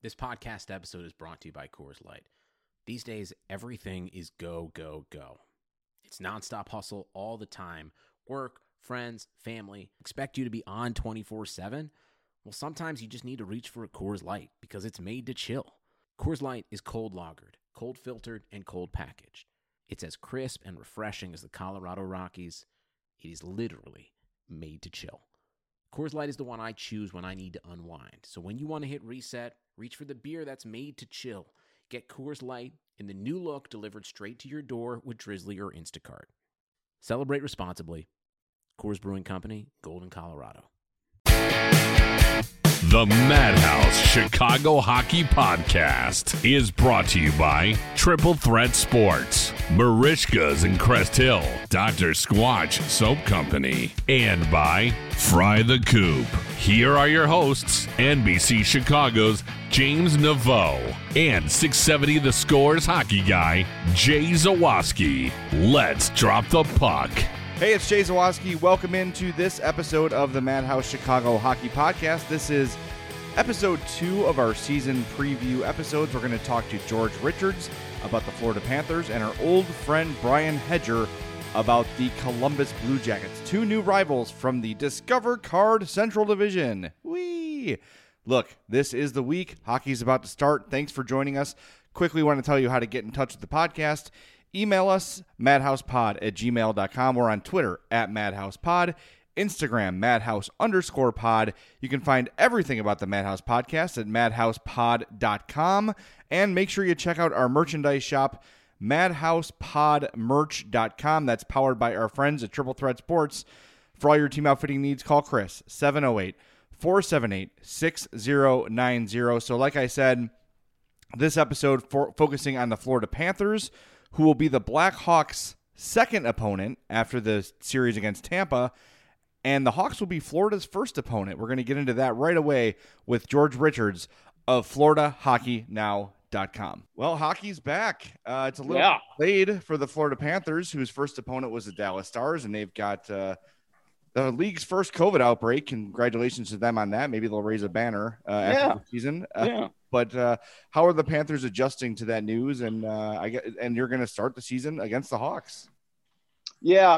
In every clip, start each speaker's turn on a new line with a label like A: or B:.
A: This podcast episode is brought to you by Coors Light. These days, everything is go, go, go. It's nonstop hustle all the time. Work, friends, family, expect you to be on 24/7. Well, sometimes you just need to reach for a Coors Light because it's made to chill. Coors Light is cold lagered, cold filtered, and cold packaged. It's as crisp and refreshing as the Colorado Rockies. It is literally made to chill. Coors Light is the one I choose when I need to unwind. So when you want to hit reset, reach for the beer that's made to chill. Get Coors Light in the new look delivered straight to your door with Drizzly or Instacart. Celebrate responsibly. Coors Brewing Company, Golden, Colorado.
B: The Madhouse Chicago Hockey Podcast is brought to you by Triple Threat Sports, Marishka's in Crest Hill, Dr. Squatch Soap Company, and by Fry the Coop. Here are your hosts, NBC Chicago's James Naveau and 670 The Scores hockey guy, Jay Zawaski. Let's drop the puck.
C: Hey, it's Jay Zawaski. Welcome into this episode of the Madhouse Chicago Hockey Podcast. This is episode 2 of our season preview episodes. We're going to talk to George Richards about the Florida Panthers and our old friend Brian Hedger about the Columbus Blue Jackets, 2 new rivals from the Discover Card Central Division. Whee! Look, this is the week. Hockey's about to start. Thanks for joining us. Quickly want to tell you how to get in touch with the podcast. Email us, madhousepod@gmail.com. We're on Twitter @madhousepod, Instagram, madhouse_pod. You can find everything about the Madhouse Podcast at madhousepod.com. And make sure you check out our merchandise shop, madhousepodmerch.com. That's powered by our friends at Triple Threat Sports. For all your team outfitting needs, call Chris, 708-478-6090. So like I said, this episode focusing on the Florida Panthers, who will be the Blackhawks' second opponent after the series against Tampa, and the Hawks will be Florida's first opponent. We're going to get into that right away with George Richards of FloridaHockeyNow.com. Well, hockey's back. It's a little delayed for the Florida Panthers, whose first opponent was the Dallas Stars, and they've got the league's first COVID outbreak. Congratulations to them on that. Maybe they'll raise a banner after the season. But how are the Panthers adjusting to that news? And you're going to start the season against the Hawks.
D: Yeah,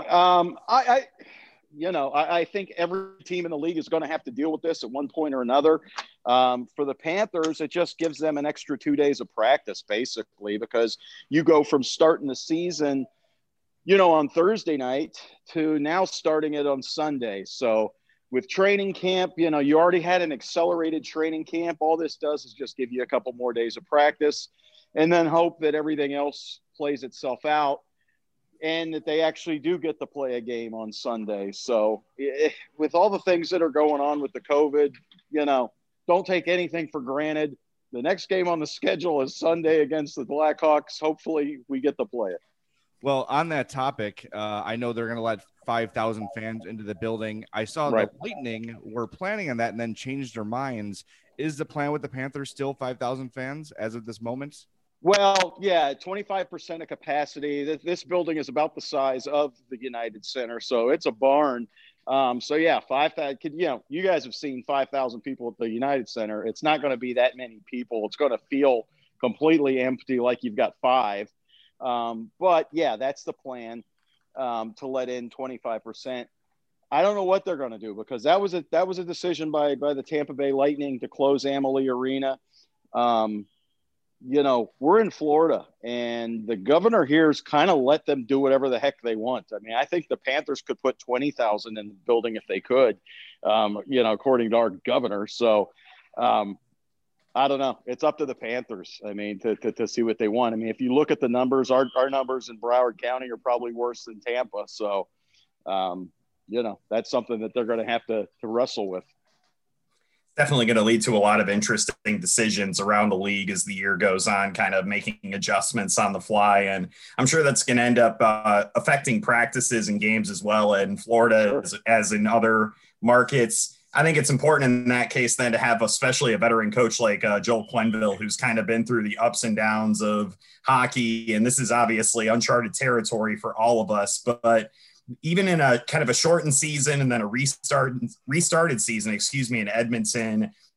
D: I think every team in the league is going to have to deal with this at one point or another. For the Panthers, it just gives them an extra 2 days of practice, basically, because you go from starting the season, on Thursday night to now starting it on Sunday. So with training camp, you already had an accelerated training camp. All this does is just give you a couple more days of practice and then hope that everything else plays itself out and that they actually do get to play a game on Sunday. So with all the things that are going on with the COVID, don't take anything for granted. The next game on the schedule is Sunday against the Blackhawks. Hopefully we get to play it.
C: Well, on that topic, I know they're going to let 5,000 fans into the building. I saw the Lightning were planning on that and then changed their minds. Is the plan with the Panthers still 5,000 fans as of this moment?
D: Well, yeah, 25% of capacity. This building is about the size of the United Center, so it's a barn. 5,000. You guys have seen 5,000 people at the United Center. It's not going to be that many people. It's going to feel completely empty, like you've got 5. But yeah, that's the plan, to let in 25%. I don't know what they're going to do because that was a decision by the Tampa Bay Lightning to close Amalie Arena. We're in Florida and the governor here's kind of let them do whatever the heck they want. I mean, I think the Panthers could put 20,000 in the building if they could, according to our governor. So, I don't know. It's up to the Panthers. I mean, to see what they want. I mean, if you look at the numbers, our numbers in Broward County are probably worse than Tampa. So, that's something that they're going to have to wrestle with.
E: Definitely going to lead to a lot of interesting decisions around the league as the year goes on, kind of making adjustments on the fly. And I'm sure that's going to end up affecting practices and games as well in Florida, as in other markets. I think it's important in that case then to have especially a veteran coach like Joel Quenneville, who's kind of been through the ups and downs of hockey. And this is obviously uncharted territory for all of us. But even in a kind of a shortened season and then a restarted season, in Edmonton,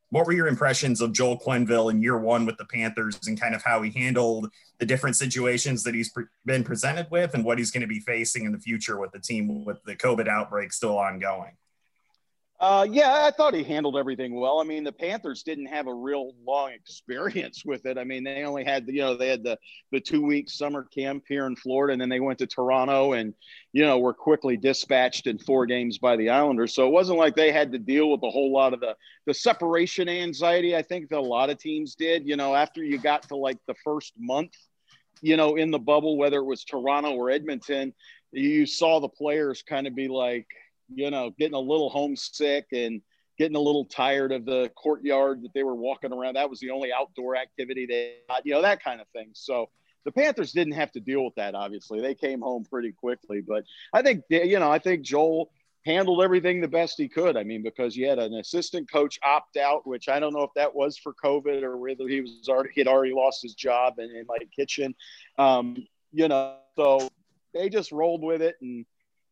E: What were your impressions of Joel Quenneville in year one with the Panthers and kind of how he handled the different situations that he's been presented with and what he's going to be facing in the future with the team with the COVID outbreak still ongoing?
D: Yeah, I thought he handled everything well. I mean, the Panthers didn't have a real long experience with it. I mean, they only had, they had the 2-week summer camp here in Florida, and then they went to Toronto and, were quickly dispatched in 4 games by the Islanders. So it wasn't like they had to deal with a whole lot of the separation anxiety. I think that a lot of teams did, after you got to like the first month, in the bubble, whether it was Toronto or Edmonton, you saw the players kind of be like, getting a little homesick and getting a little tired of the courtyard that they were walking around. That was the only outdoor activity they had, that kind of thing. So the Panthers didn't have to deal with that. Obviously they came home pretty quickly, but I think, I think Joel handled everything the best he could. I mean, because you had an assistant coach opt out, which I don't know if that was for COVID or whether he'd already lost his job in Mike Kitchen. So they just rolled with it, and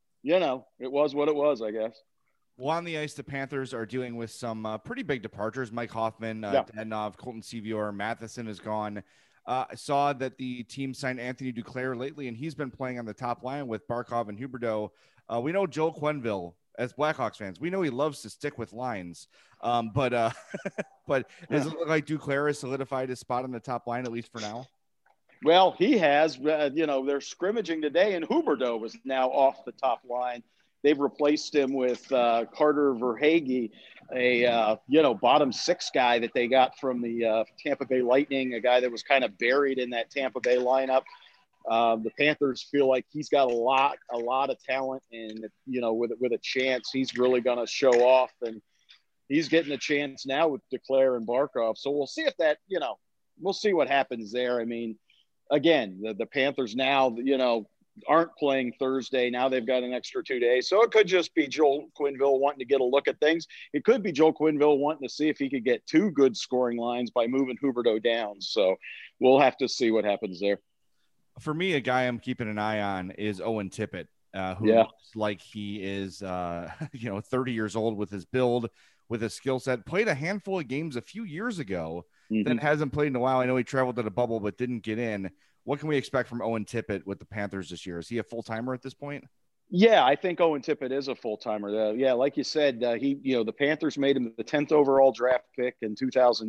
D: it was what it was, I guess.
C: Well, on the ice, the Panthers are dealing with some pretty big departures. Mike Hoffman, Dadonov, Colton Sceviour, Matheson is gone. I saw that the team signed Anthony Duclair lately, and he's been playing on the top line with Barkov and Huberdeau. We know Joel Quenneville, as Blackhawks fans, we know he loves to stick with lines. But does it look like Duclair has solidified his spot on the top line, at least for now?
D: Well, he has, they're scrimmaging today, and Huberdeau was now off the top line. They've replaced him with Carter Verhaeghe, a bottom 6 guy that they got from the Tampa Bay Lightning, a guy that was kind of buried in that Tampa Bay lineup. The Panthers feel like he's got a lot of talent, and with a chance, he's really going to show off, and he's getting a chance now with Duclair and Barkov. So we'll see if that, we'll see what happens there. I mean, again, the Panthers now, aren't playing Thursday. Now they've got an extra 2 days. So it could just be Joel Quenneville wanting to get a look at things. It could be Joel Quenneville wanting to see if he could get 2 good scoring lines by moving Huberdeau down. So we'll have to see what happens there.
C: For me, a guy I'm keeping an eye on is Owen Tippett, who looks like he is, 30 years old with his build, with his skill set. Played a handful of games a few years ago. Then hasn't played in a while. I know he traveled to the bubble, but didn't get in. What can we expect from Owen Tippett with the Panthers this year? Is he a full-timer at this point?
D: Yeah, I think Owen Tippett is a full-timer. Yeah, like you said, the Panthers made him the 10th overall draft pick in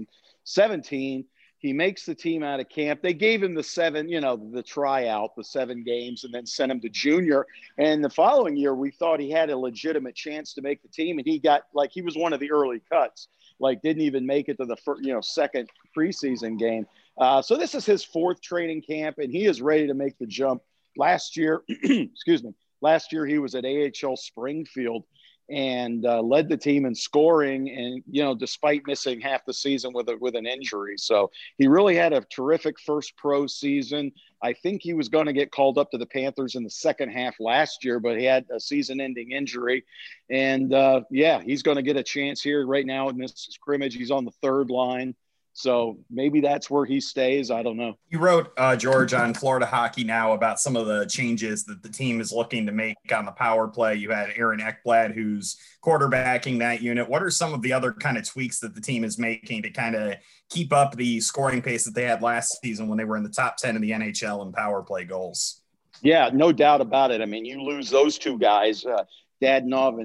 D: 2017. He makes the team out of camp. They gave him the 7, the tryout, the 7 games, and then sent him to junior. And the following year, we thought he had a legitimate chance to make the team, and he was one of the early cuts. Didn't even make it to the first, second preseason game. So this is his 4th training camp, and he is ready to make the jump. Last year, last year he was at AHL Springfield and led the team in scoring, and despite missing half the season with an injury. So he really had a terrific first pro season. I think he was going to get called up to the Panthers in the second half last year, but he had a season-ending injury. And he's going to get a chance here right now in this scrimmage. He's on the 3rd line. So maybe that's where he stays. I don't know.
E: You wrote, George, on Florida Hockey Now about some of the changes that the team is looking to make on the power play. You had Aaron Ekblad, who's quarterbacking that unit. What are some of the other kind of tweaks that the team is making to kind of keep up the scoring pace that they had last season when they were in the top 10 in the NHL in power play goals?
D: Yeah, no doubt about it. I mean, you lose those 2 guys, Dadonov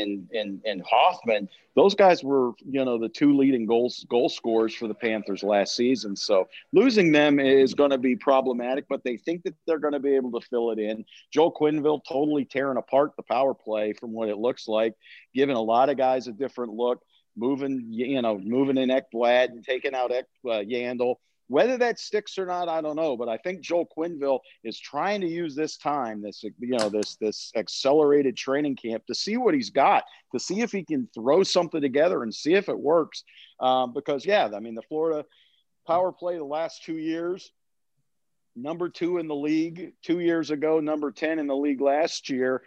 D: and Hoffman. Those guys were, the 2 leading goal scorers for the Panthers last season. So losing them is going to be problematic, but they think that they're going to be able to fill it in. Joel Quenneville totally tearing apart the power play from what it looks like, giving a lot of guys a different look, moving in Ekblad and taking out Yandel. Whether that sticks or not, I don't know. But I think Joel Quenneville is trying to use this time, this accelerated training camp, to see what he's got, to see if he can throw something together and see if it works. Because, the Florida power play the last 2 years, number 2 in the league 2 years ago, number 10 in the league last year.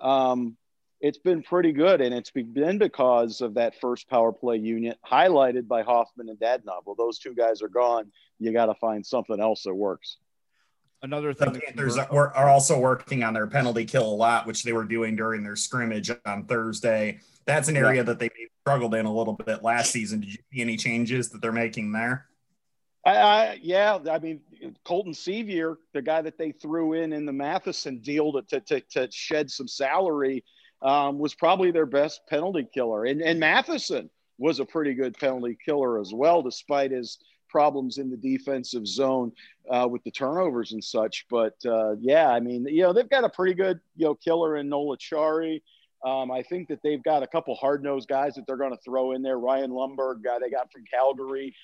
D: It's been pretty good, and it's been because of that first power play unit highlighted by Hoffman and Dadonov. Well, those 2 guys are gone. You got to find something else that works.
C: Another thing,
E: the Panthers are also working on their penalty kill a lot, which they were doing during their scrimmage on Thursday. That's an area that they struggled in a little bit last season. Did you see any changes that they're making there?
D: Yeah, I mean, Colton Sevier, the guy that they threw in the Matheson deal to shed some salary, was probably their best penalty killer. And Matheson was a pretty good penalty killer as well, despite his problems in the defensive zone with the turnovers and such. But yeah, I mean, they've got a pretty good, killer in Nola Chari. I think that they've got a couple hard-nosed guys that they're going to throw in there. Ryan Lumberg, guy they got from Calgary.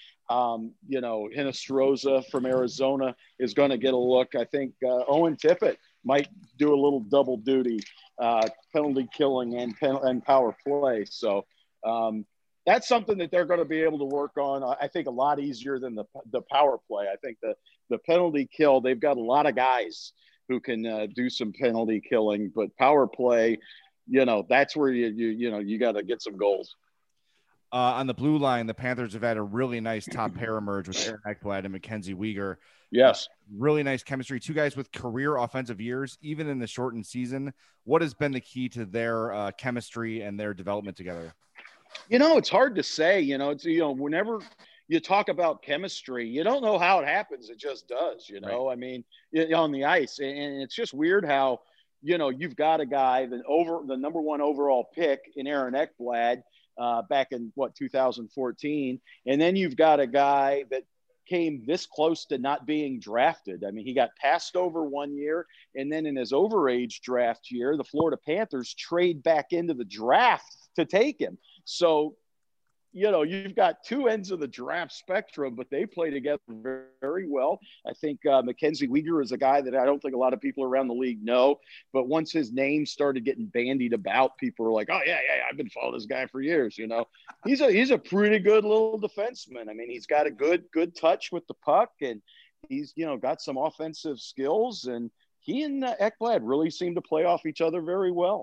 D: Hinostroza from Arizona is going to get a look. I think Owen Tippett might do a little double duty, penalty killing and power play. So that's something that they're going to be able to work on. I think a lot easier than the power play. I think the penalty kill, they've got a lot of guys who can do some penalty killing, but power play, that's where you got to get some goals.
C: On the blue line, the Panthers have had a really nice top pair emerge with Aaron Ekblad and Mackenzie Weegar.
D: Yes.
C: Really nice chemistry. Two guys with career offensive years, even in the shortened season. What has been the key to their chemistry and their development together?
D: It's hard to say. Whenever you talk about chemistry, you don't know how it happens. It just does,
C: Right.
D: I mean, on the ice. And it's just weird how, you've got a guy the number one overall pick in Aaron Ekblad back in 2014. And then you've got a guy that came this close to not being drafted. I mean, he got passed over one year, and then in his overage draft year, the Florida Panthers trade back into the draft to take him. So, you've got two ends of the draft spectrum, but they play together very, very well. I think Mackenzie Weegar is a guy that I don't think a lot of people around the league know, but once his name started getting bandied about, people are like, oh yeah, I've been following this guy for years. He's a pretty good little defenseman. I mean, he's got a good touch with the puck, and he's, got some offensive skills, and he and Ekblad really seem to play off each other very well.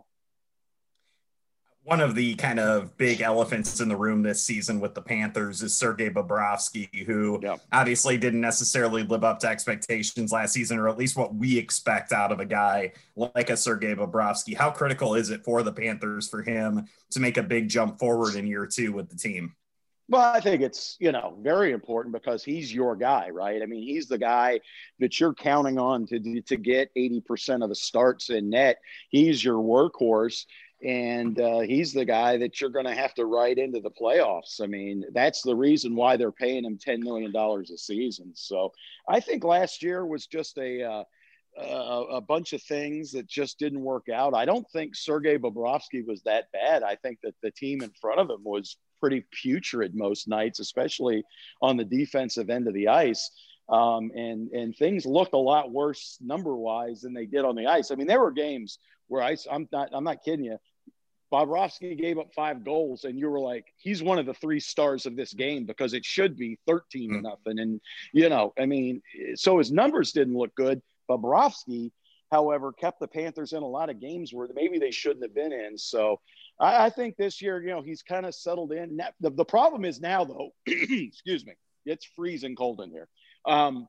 E: One of the kind of big elephants in the room this season with the Panthers is Sergei Bobrovsky, who obviously didn't necessarily live up to expectations last season, or at least what we expect out of a guy like a Sergei Bobrovsky. How critical is it for the Panthers for him to make a big jump forward in year two with the team?
D: Well, I think it's, very important because he's your guy, right? I mean, he's the guy that you're counting on to get 80% of the starts in net. He's your workhorse. And he's the guy that you're going to have to ride into the playoffs. I mean, that's the reason why they're paying him $10 million a season. So I think last year was just a bunch of things that just didn't work out. I don't think Sergei Bobrovsky was that bad. I think that the team in front of him was pretty putrid most nights, especially on the defensive end of the ice. And things looked a lot worse number-wise than they did on the ice. I mean, there were games where I'm not kidding you. Bobrovsky gave up 5 goals, and you were like, he's one of the 3 stars of this game because it should be 13-0. And, I mean, so his numbers didn't look good. Bobrovsky, however, kept the Panthers in a lot of games where maybe they shouldn't have been in. So I think this year, he's kind of settled in. The problem is now, though, excuse me, it's freezing cold in here. I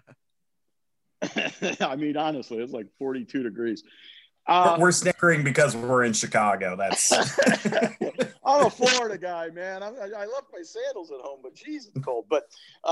D: mean, honestly, it's like 42 degrees.
E: We're snickering because we're in Chicago. That's
D: I'm a Florida guy, man. I left my sandals at home, but geez, it's cold. But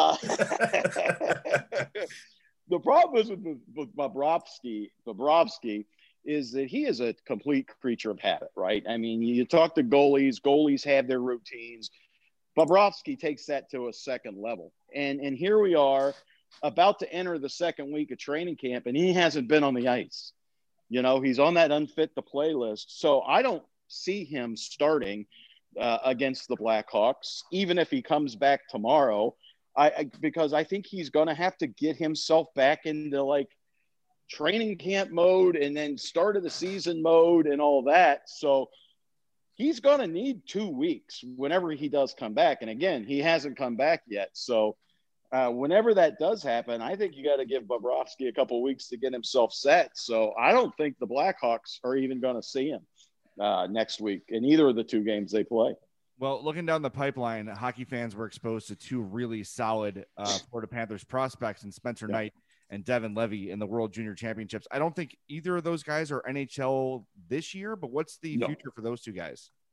D: the problem is with Bobrovsky is that he is a complete creature of habit, right? I mean, you talk to goalies have their routines. Bobrovsky takes that to a second level. And here we are about to enter the second week of training camp, and he hasn't been on the ice. He's on that unfit to play list. So I don't see him starting against the Blackhawks, even if he comes back tomorrow, because I think he's going to have to get himself back into like training camp mode and then start of the season mode and all that. So he's going to need 2 weeks whenever he does come back. And again, he hasn't come back yet. So whenever that does happen, I think you got to give Bobrovsky a couple of weeks to get himself set. So I don't think the Blackhawks are even going to see him next week in either of the 2 games they play.
C: Well, looking down the pipeline, hockey fans were exposed to 2 really solid Florida Panthers prospects in Spencer Knight and Devin Levy in the World Junior Championships. I don't think either of those guys are NHL this year, but what's the future for those 2 guys?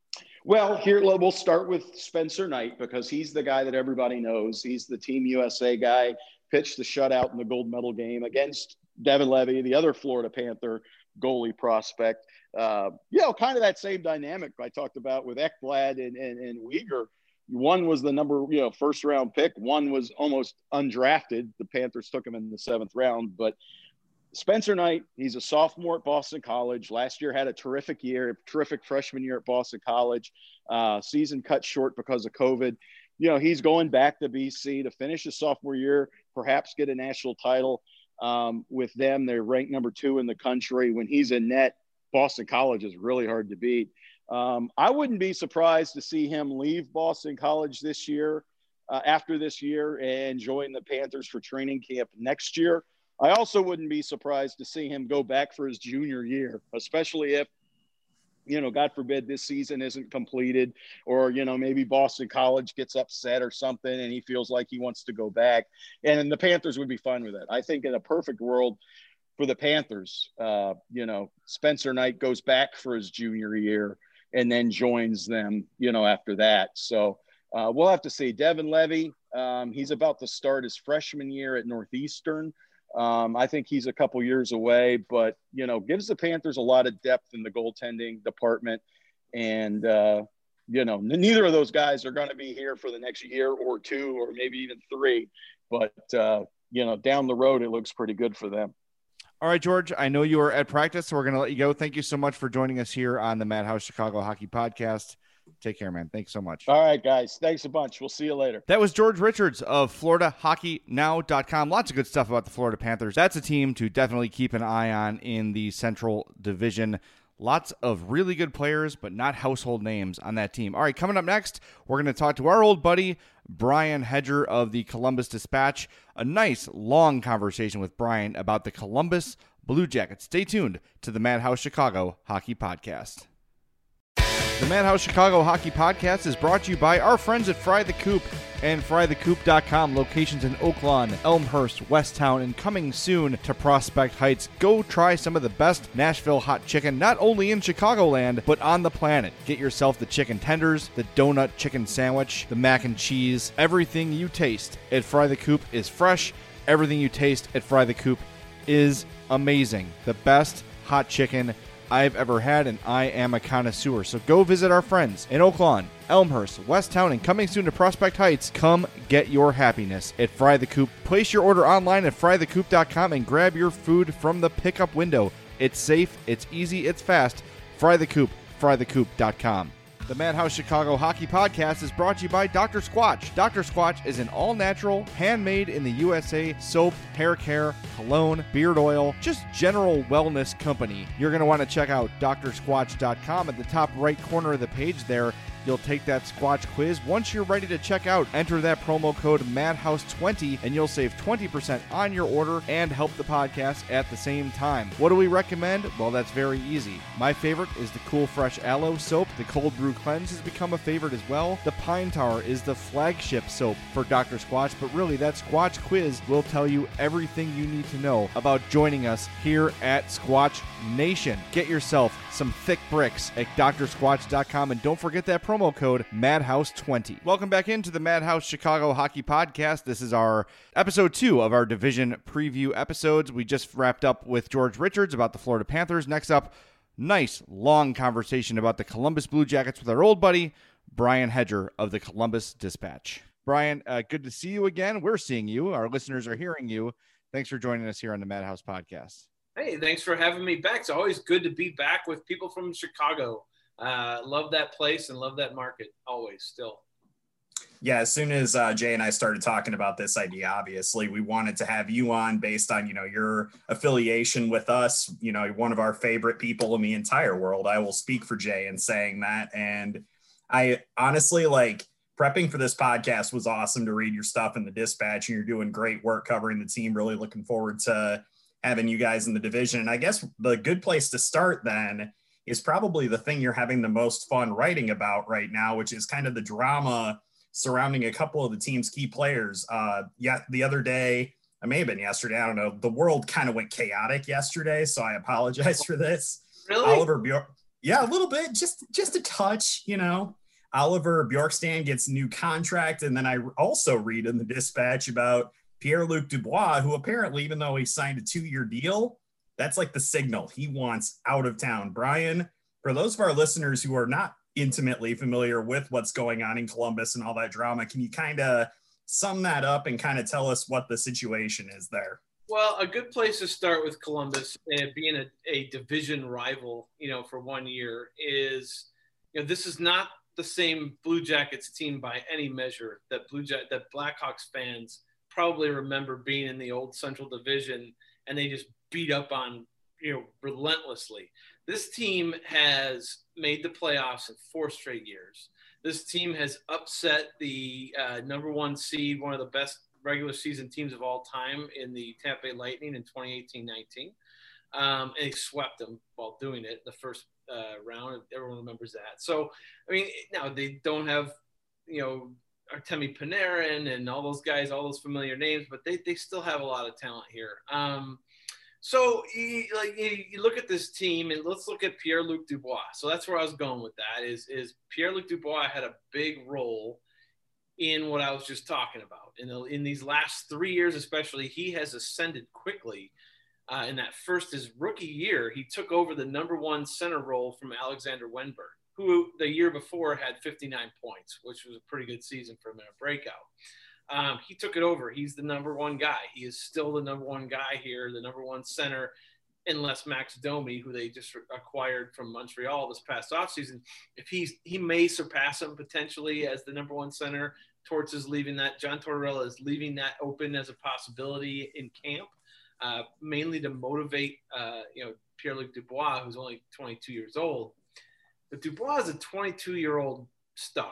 D: Well, here we'll start with Spencer Knight because he's the guy that everybody knows. He's the Team USA guy, pitched the shutout in the gold medal game against Devin Levy, the other Florida Panther goalie prospect. Kind of that same dynamic I talked about with Ekblad and Weegar. One was the first round pick. One was almost undrafted. The Panthers took him in the 7th round, but Spencer Knight, he's a sophomore at Boston College. Last year had a terrific freshman year at Boston College. Season cut short because of COVID. He's going back to BC to finish his sophomore year, perhaps get a national title with them. They're ranked number 2 in the country. When he's in net, Boston College is really hard to beat. I wouldn't be surprised to see him leave Boston College this year, after this year, and join the Panthers for training camp next year. I also wouldn't be surprised to see him go back for his junior year, especially if, God forbid this season isn't completed, or, maybe Boston College gets upset or something and he feels like he wants to go back. And the Panthers would be fine with that. I think in a perfect world for the Panthers, Spencer Knight goes back for his junior year and then joins them, after that. So we'll have to see. Devin Levy, he's about to start his freshman year at Northeastern. I think he's a couple years away, but, gives the Panthers a lot of depth in the goaltending department. And, neither of those guys are going to be here for the next year or 2 or maybe even 3. But, down the road, it looks pretty good for them.
C: All right, George, I know you are at practice, so we're going to let you go. Thank you so much for joining us here on the Madhouse Chicago Hockey Podcast. Take care, man. Thanks so much.
D: All right, guys. Thanks a bunch. We'll see you later.
C: That was George Richards of FloridaHockeyNow.com. Lots of good stuff about the Florida Panthers. That's a team to definitely keep an eye on in the Central Division. Lots of really good players, but not household names on that team. All right, coming up next, we're going to talk to our old buddy, Brian Hedger of the Columbus Dispatch. A nice, long conversation with Brian about the Columbus Blue Jackets. Stay tuned to the Madhouse Chicago Hockey Podcast. The Madhouse Chicago Hockey Podcast is brought to you by our friends at Fry the Coop and frythecoop.com. Locations in Oak Lawn, Elmhurst, Westtown, and coming soon to Prospect Heights. Go try some of the best Nashville hot chicken, not only in Chicagoland, but on the planet. Get yourself the chicken tenders, the donut chicken sandwich, the mac and cheese. Everything you taste at Fry the Coop is fresh. Everything you taste at Fry the Coop is amazing. The best hot chicken I've ever had, and I am a connoisseur. So go visit our friends in Oak Lawn, Elmhurst, Westtown, and coming soon to Prospect Heights. Come get your happiness at Fry the Coop. Place your order online at frythecoop.com and grab your food from the pickup window. It's safe, it's easy, it's fast. Fry the Coop, frythecoop.com. The Madhouse Chicago Hockey Podcast is brought to you by Dr. Squatch. Dr. Squatch is an all-natural, handmade in the USA soap, hair care, cologne, beard oil, just general wellness company. You're going to want to check out drsquatch.com. At the top right corner of the page there, you'll take that Squatch quiz. Once you're ready to check out, enter that promo code MADHOUSE20 and you'll save 20% on your order and help the podcast at the same time. What do we recommend? Well, that's very easy. My favorite is the Cool Fresh Aloe soap. The Cold Brew Cleanse has become a favorite as well. The Pine Tar is the flagship soap for Dr. Squatch, but really that Squatch quiz will tell you everything you need to know about joining us here at Squatch Nation. Get yourself some thick bricks at drsquatch.com and don't forget that promo code MADHOUSE20. Welcome back into the Madhouse Chicago Hockey Podcast. This is our episode 2 of our division preview episodes. We just wrapped up with George Richards about the Florida Panthers. Next up, nice long conversation about the Columbus Blue Jackets with our old buddy, Brian Hedger of the Columbus Dispatch. Brian, good to see you again. We're seeing you. Our listeners are hearing you. Thanks for joining us here on the Madhouse Podcast.
F: Hey, thanks for having me back. It's always good to be back with people from Chicago. Love that place and love that market always still.
E: Yeah, as soon as Jay and I started talking about this idea, obviously we wanted to have you on based on, your affiliation with us, one of our favorite people in the entire world. I will speak for Jay in saying that. And I honestly, prepping for this podcast was awesome to read your stuff in the Dispatch, and you're doing great work covering the team. Really looking forward to having you guys in the division. And I guess the good place to start then is probably the thing you're having the most fun writing about right now, which is kind of the drama surrounding a couple of the team's key players. The other day, it may have been yesterday, I don't know, the world kind of went chaotic yesterday, so I apologize for this.
F: Really?
E: Yeah, a little bit, just a touch, you know. Oliver Bjorkstrand gets a new contract, and then I also read in the Dispatch about Pierre-Luc Dubois, who apparently, even though he signed a 2-year deal, that's like the signal he wants out of town. Brian, for those of our listeners who are not intimately familiar with what's going on in Columbus and all that drama, can you kind of sum that up and kind of tell us what the situation is there?
F: Well, a good place to start with Columbus being a division rival, for 1 year is, this is not the same Blue Jackets team by any measure that Blackhawks fans probably remember being in the old Central Division, and they just beat up on, relentlessly. This team has made the playoffs in 4 straight years. This team has upset the number 1 seed, one of the best regular season teams of all time in the Tampa Bay Lightning in 2018-19. And they swept them while doing it the first round. Everyone remembers that. So, I mean, now they don't have, Artemi Panarin and all those guys, all those familiar names, but they still have a lot of talent here. So you look at this team, and let's look at Pierre-Luc Dubois. So that's where I was going with that is Pierre-Luc Dubois had a big role in what I was just talking about. In these last 3 years, especially, he has ascended quickly. In that his rookie year, he took over the number 1 center role from Alexander Wenberg, who the year before had 59 points, which was a pretty good season for him in a breakout. He took it over. He's the number 1 guy. He is still the number 1 guy here, the number 1 center, unless Max Domi, who they just acquired from Montreal this past offseason, if he may surpass him potentially as the number 1 center. Torts is leaving that. John Tortorella is leaving that open as a possibility in camp, mainly to motivate, Pierre-Luc Dubois, who's only 22 years old. But Dubois is a 22-year-old star.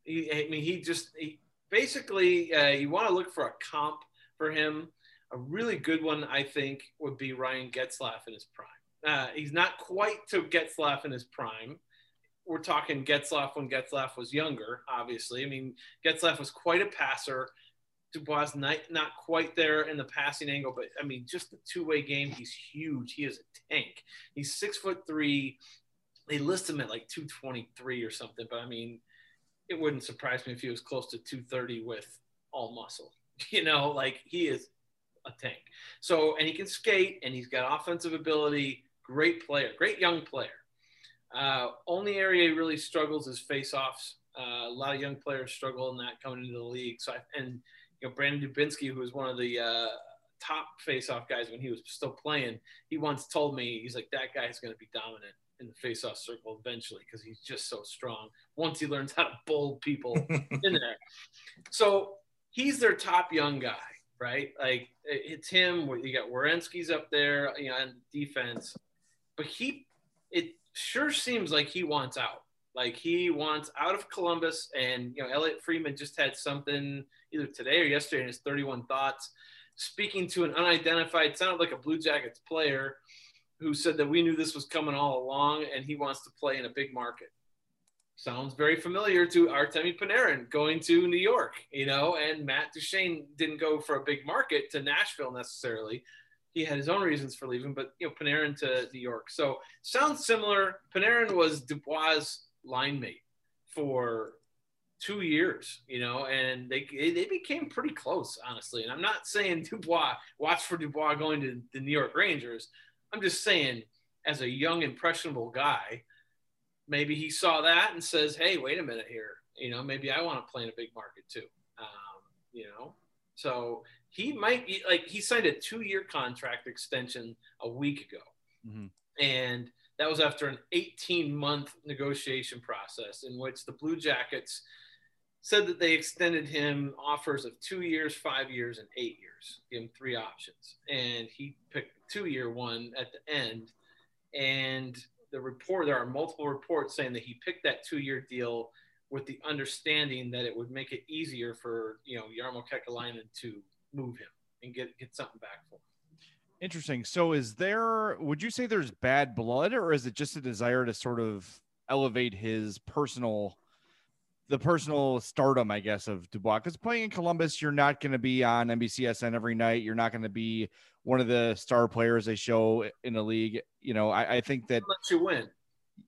F: Basically, you want to look for a comp for him. A really good one, I think, would be Ryan Getzlaf in his prime. He's not quite to Getzlaf in his prime. We're talking Getzlaf when Getzlaf was younger, obviously. I mean, Getzlaf was quite a passer. Dubois not quite there in the passing angle, but, I mean, just the two-way game, he's huge. He is a tank. He's 6'3". They list him at like 223 or something, but, I mean, it wouldn't surprise me if he was close to 230 with all muscle. He is a tank. So, and he can skate, and he's got offensive ability. Great player, great young player. Only area he really struggles is face-offs. A lot of young players struggle in that coming into the league. So, Brandon Dubinsky, who was one of the top face-off guys when he was still playing, he once told me, he's like, that guy is going to be dominant in the face-off circle eventually because he's just so strong once he learns how to bowl people in there. So he's their top young guy, right? Like, it's him. You got Werenski's up there, and defense. But it sure seems like he wants out. Like, he wants out of Columbus, and, Elliot Friedman just had something either today or yesterday in his 31 Thoughts, speaking to an unidentified, sounded like a Blue Jackets player, who said that we knew this was coming all along, and he wants to play in a big market. Sounds very familiar to Artemi Panarin going to New York, and Matt Duchene didn't go for a big market to Nashville necessarily. He had his own reasons for leaving, but, Panarin to New York. So sounds similar. Panarin was Dubois' line mate for 2 years, and they became pretty close, honestly. And I'm not saying watch for Dubois going to the New York Rangers. I'm just saying, as a young, impressionable guy, maybe he saw that and says, hey, wait a minute here. Maybe I want to play in a big market too. So he might be he signed a 2-year contract extension a week ago. Mm-hmm. And that was after an 18-month negotiation process in which the Blue Jackets said that they extended him offers of 2 years, 5 years, and 8 years. Give him 3 options. And he picked the 2-year one at the end. And there are multiple reports saying that he picked that 2-year deal with the understanding that it would make it easier for, Jarmo Kekalainen to move him and get something back for him.
C: Interesting. So would you say there's bad blood, or is it just a desire to sort of elevate his personal stardom, I guess, of Dubois? Because playing in Columbus, you're not going to be on NBCSN every night. You're not going to be one of the star players they show in the league. I think that
F: unless you win.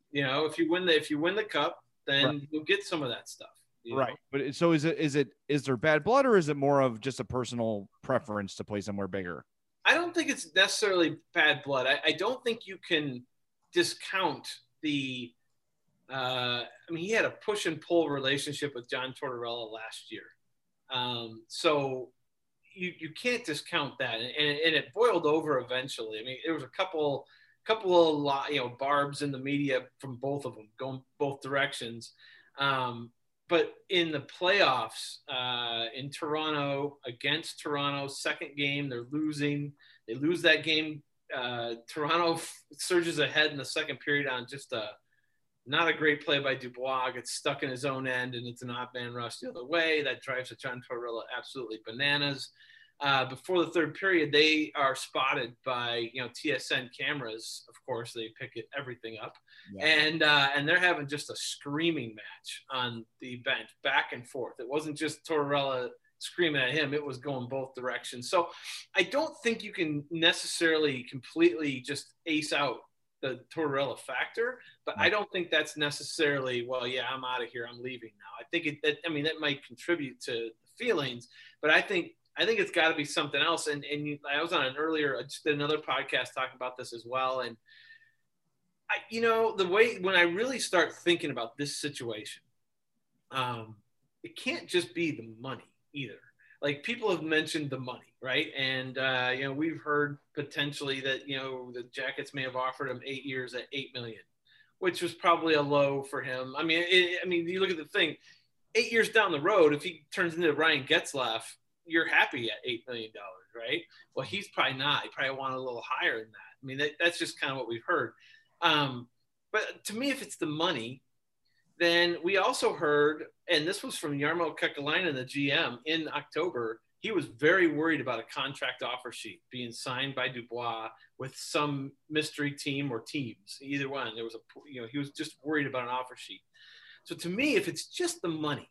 F: You know, if you win the cup, then you'll get some of that stuff.
C: Right. But so is there bad blood, or is it more of just a personal preference to play somewhere bigger?
F: I don't think it's necessarily bad blood. I don't think you can discount the he had a push and pull relationship with John Tortorella last year. So you can't discount that. And it boiled over eventually. I mean, there was a couple of barbs in the media from both of them going both directions. But in the playoffs in Toronto, against Toronto, second game, they're losing. They lose that game. Toronto surges ahead in the second period on just not a great play by Dubois. Gets stuck in his own end, and it's an odd man rush the other way. That drives John Tortorella absolutely bananas. Before the third period, they are spotted by TSN cameras. Of course, they pick everything up, and they're having just a screaming match on the bench, back and forth. It wasn't just Tortorella screaming at him; it was going both directions. So, I don't think you can necessarily completely just ace out the Tortorella factor, but I don't think that's necessarily, I'm out of here, I'm leaving now. I think that might contribute to the feelings, but I think it's got to be something else. And I was on just another podcast talking about this as well. And the way, when I really start thinking about this situation, it can't just be the money either. Like, people have mentioned the money, right? And, we've heard potentially that, the Jackets may have offered him 8 years at $8 million, which was probably a low for him. I mean, you look at the thing, 8 years down the road, if he turns into Ryan Getzlaf, you're happy at $8 million, right? Well, he's probably not. He probably wanted a little higher than that. I mean, that's just kind of what we've heard. But to me, if it's the money, then we also heard, and this was from Jarmo Kekalainen, the GM, in October, he was very worried about a contract offer sheet being signed by Dubois with some mystery team or teams, either one. There was he was just worried about an offer sheet. So to me, if it's just the money,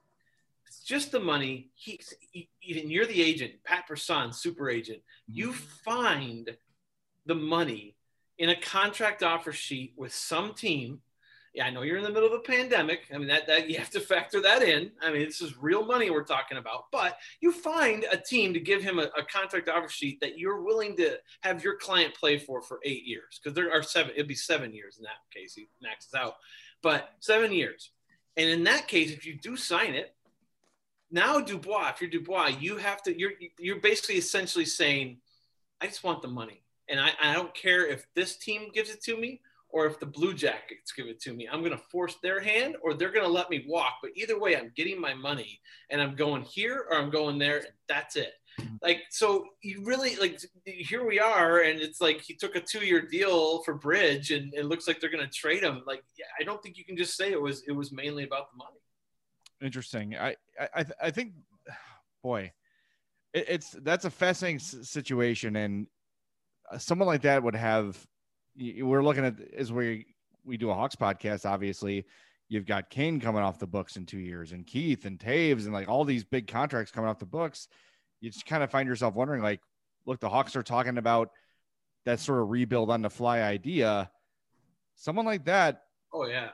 F: even you're the agent, Pat Brisson, super agent, you find the money in a contract offer sheet with some team. Yeah, I know you're in the middle of a pandemic. I mean, that you have to factor that in. I mean, this is real money we're talking about. But you find a team to give him a contract offer sheet that you're willing to have your client play for 8 years, because there are 7. It'd be 7 years in that case. He maxes out, but 7 years. And in that case, if you do sign it, now Dubois, if you're Dubois, you have to. You're basically essentially saying, I just want the money, and I don't care if this team gives it to me, or if the Blue Jackets give it to me. I'm going to force their hand, or they're going to let me walk. But either way, I'm getting my money, and I'm going here or I'm going there, and that's it. Like, so you really, here we are, and it's like he took a 2-year deal for Bridge, and it looks like they're going to trade him. Like, I don't think you can just say it was mainly about the money. Interesting.
C: I think, boy, that's a fascinating situation, and someone like that would have. We're looking at, as we do a Hawks podcast, obviously, you've got Kane coming off the books in 2 years, and Keith and Taves, and like all these big contracts coming off the books. You just kind of find yourself wondering, like, look, the Hawks are talking about that sort of rebuild on the fly idea. Someone like that.
F: Oh yeah.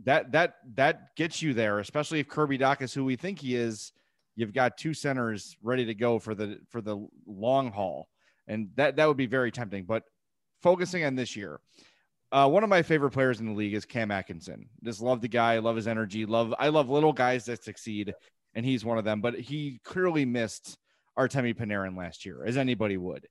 C: That gets you there, especially if Kirby Dach is who we think he is. You've got 2 centers ready to go for the long haul. And that would be very tempting, but focusing on this year, one of my favorite players in the league is Cam Atkinson. Just love the guy, love his energy, I love little guys that succeed, and he's one of them. But he clearly missed Artemi Panarin last year, as anybody would.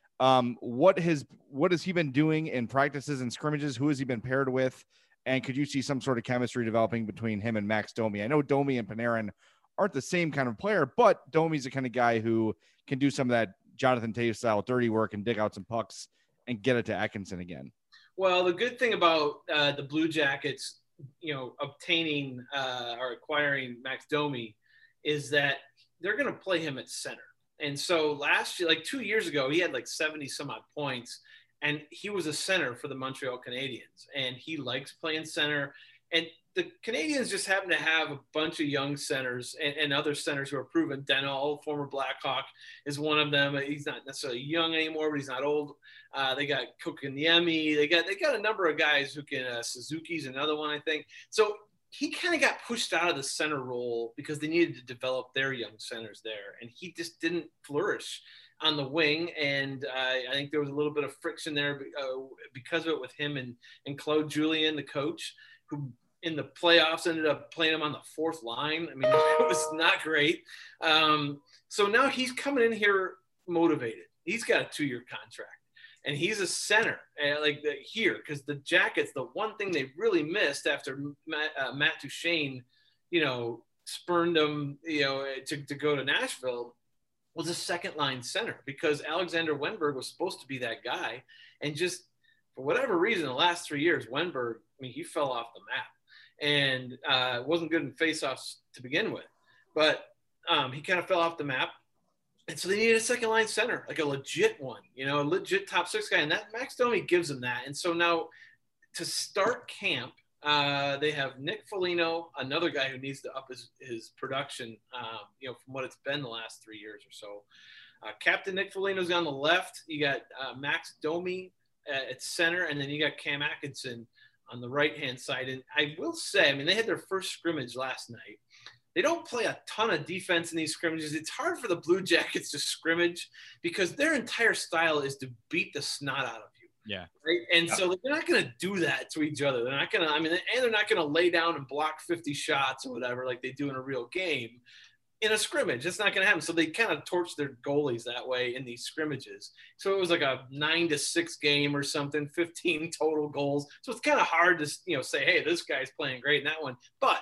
C: What has he been doing in practices and scrimmages? Who has he been paired with? And could you see some sort of chemistry developing between him and Max Domi? I know Domi and Panarin aren't the same kind of player, but Domi's the kind of guy who can do some of that Jonathan Toews style dirty work and dig out some pucks and get it to Atkinson again.
F: Well, the good thing about the Blue Jackets, obtaining or acquiring Max Domi, is that they're going to play him at center. And so last year, 2 years ago, he had 70 some odd points, and he was a center for the Montreal Canadiens, and he likes playing center. And the Canadians just happen to have a bunch of young centers and other centers who are proven. Deno, former Blackhawk, is one of them. He's not necessarily young anymore, but he's not old. They got Kokoniemi. They got a number of guys who can. Suzuki's another one, I think. So he kind of got pushed out of the center role because they needed to develop their young centers there, and he just didn't flourish on the wing. And I think there was a little bit of friction there because of it with him and Claude Julien, the coach, who in the playoffs ended up playing him on the fourth line. I mean, it was not great. So now he's coming in here motivated. He's got a 2-year contract, and he's a center here, because the Jackets, the one thing they really missed after Matt Duchene, spurned them, to go to Nashville, was a second line center, because Alexander Wenberg was supposed to be that guy. And just for whatever reason, the last 3 years, Wenberg, he fell off the map and wasn't good in faceoffs to begin with, but he kind of fell off the map. And so they needed a second line center, like a legit one, a legit top 6 guy. And that Max Domi gives them that. And so now to start camp, they have Nick Foligno, another guy who needs to up his production, from what it's been the last 3 years or so. Captain Nick Foligno's on the left. You got Max Domi at center, and then you got Cam Atkinson on the right-hand side. And I will say, they had their first scrimmage last night. They don't play a ton of defense in these scrimmages. It's hard for the Blue Jackets to scrimmage because their entire style is to beat the snot out of you.
C: Yeah.
F: Right. And so they're not going to do that to each other. They're not going to, and they're not going to lay down and block 50 shots or whatever like they do in a real game in a scrimmage. It's not going to happen. So they kind of torch their goalies that way in these scrimmages. So it was like a 9-6 game or something, 15 total goals. So it's kind of hard to, say, hey, this guy's playing great in that one. But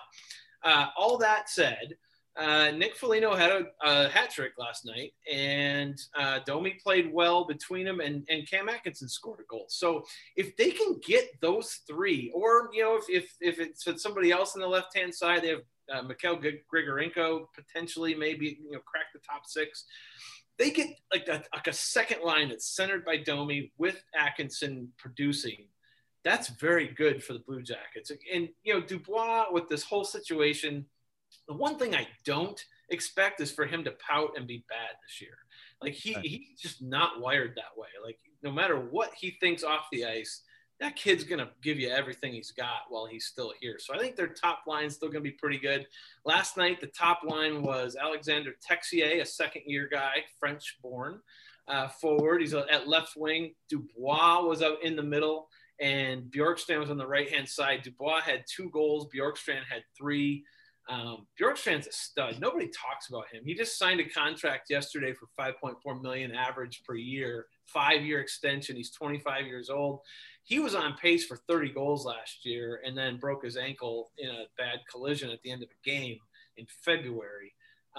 F: all that said, Nick Foligno had a hat trick last night, and Domi played well between them, and Cam Atkinson scored a goal. So if they can get those three, or if it's somebody else on the left hand side, they have Mikhail Grigorenko potentially maybe crack the top 6. They get like a second line that's centered by Domi with Atkinson producing. That's very good for the Blue Jackets. And, Dubois, with this whole situation, the one thing I don't expect is for him to pout and be bad this year. Like, he's just not wired that way. Like, no matter what he thinks off the ice, that kid's going to give you everything he's got while he's still here. So I think their top line's still going to be pretty good. Last night, the top line was Alexander Texier, a second-year guy, French-born forward. He's at left wing. Dubois was out in the middle, and Bjorkstrand was on the right-hand side. Dubois had 2 goals. Bjorkstrand had 3. Bjorkstrand's a stud. Nobody talks about him. He just signed a contract yesterday for $5.4 million average per year, 5-year extension. He's 25 years old. He was on pace for 30 goals last year and then broke his ankle in a bad collision at the end of a game in February.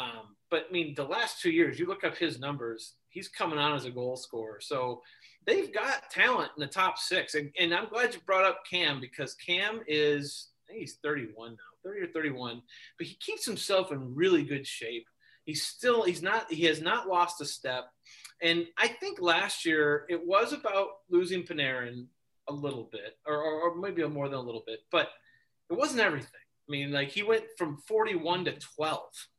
F: But the last 2 years, you look up his numbers, he's coming on as a goal scorer. So they've got talent in the top 6. And I'm glad you brought up Cam, because Cam is, I think he's 31 now, 30 or 31, but he keeps himself in really good shape. He has not lost a step. And I think last year it was about losing Panarin a little bit, or maybe more than a little bit, but it wasn't everything. He went from 41 to 12.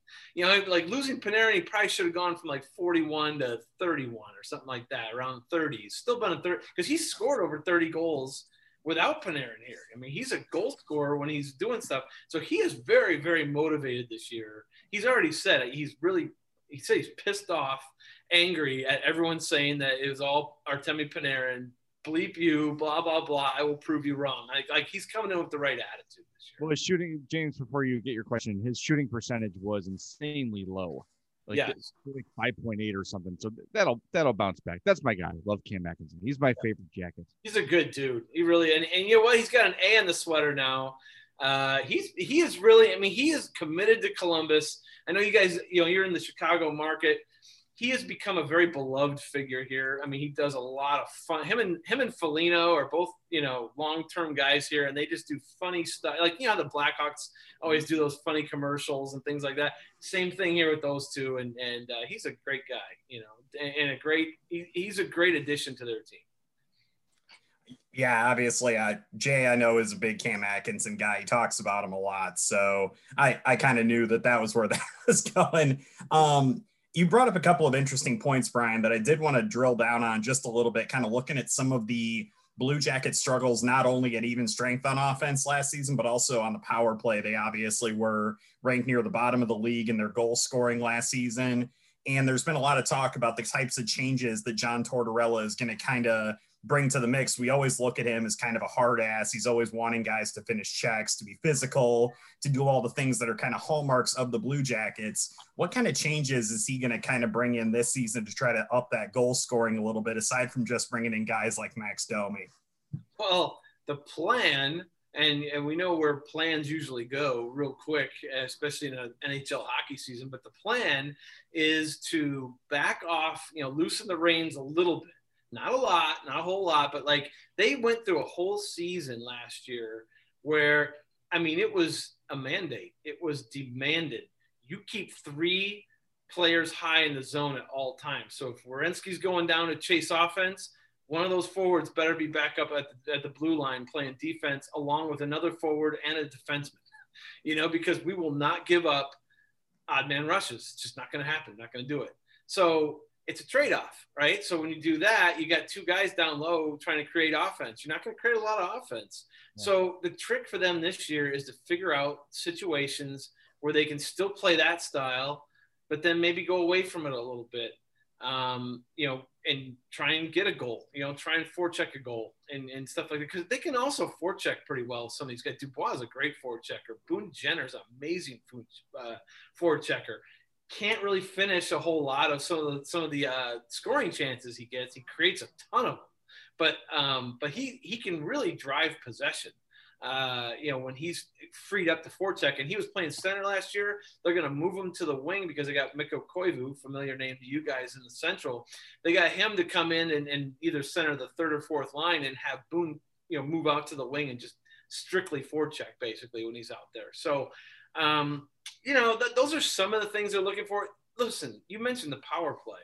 F: Losing Panarin, he probably should have gone from 41 to 31 or something like that, around 30. He's still been a 30, because he's scored over 30 goals without Panarin here. He's a goal scorer when he's doing stuff. So he is very, very motivated this year. He's already said it. He said he's pissed off, angry at everyone saying that it was all Artemi Panarin, bleep you, blah, blah, blah. I will prove you wrong. He's coming in with the right attitude this year.
C: Well, his shooting, James, before you get your question, his shooting percentage was insanely low.
F: Yes.
C: 5.8 or something. So that'll bounce back. That's my guy. Love Cam Atkinson. He's my favorite Jacket.
F: He's a good dude. He really, and you know what? He's got an A in the sweater now. He is really, he is committed to Columbus. I know you guys, you're in the Chicago market. He has become a very beloved figure here. He does a lot of fun. Him and Foligno are both, long-term guys here, and they just do funny stuff. The Blackhawks always do those funny commercials and things like that. Same thing here with those two, and he's a great guy, and he's a great addition to their team.
E: Yeah, obviously, Jay, I know, is a big Cam Atkinson guy. He talks about him a lot. So I kind of knew that was where that was going. You brought up a couple of interesting points, Brian, that I did want to drill down on just a little bit, kind of looking at some of the Blue Jackets struggles, not only at even strength on offense last season, but also on the power play. They obviously were ranked near the bottom of the league in their goal scoring last season. And there's been a lot of talk about the types of changes that John Tortorella is going to kind of bring to the mix. We always look at him as kind of a hard ass. He's always wanting guys to finish checks, to be physical, to do all the things that are kind of hallmarks of the Blue Jackets. What kind of changes is he going to kind of bring in this season to try to up that goal scoring a little bit, aside from just bringing in guys like Max Domi?
F: Well, the plan, and we know where plans usually go real quick, especially in an NHL hockey season, but the plan is to back off, loosen the reins a little bit. Not a lot, not a whole lot, but like they went through a whole season last year where, it was a mandate. It was demanded. You keep 3 players high in the zone at all times. So if Werenski's going down to chase offense, one of those forwards better be back up at the blue line playing defense along with another forward and a defenseman, because we will not give up odd man rushes. It's just not going to happen. Not going to do it. So it's a trade-off, right? So when you do that, you got 2 guys down low trying to create offense. You're not going to create a lot of offense. Yeah. So the trick for them this year is to figure out situations where they can still play that style, but then maybe go away from it a little bit, and try and get a goal, try and forecheck a goal and stuff like that. Because they can also forecheck pretty well. Some of these guys, Dubois is a great forechecker. Boone Jenner's an amazing forechecker. Can't really finish a whole lot of some of the scoring chances he gets. He creates a ton of them, but he can really drive possession. When he's freed up to forecheck, and he was playing center last year, they're going to move him to the wing because they got Mikko Koivu, familiar name to you guys in the Central. They got him to come in and either center the 3rd or 4th line and have Boone, move out to the wing and just strictly forecheck basically when he's out there. So, those are some of the things they're looking for. Listen, you mentioned the power play.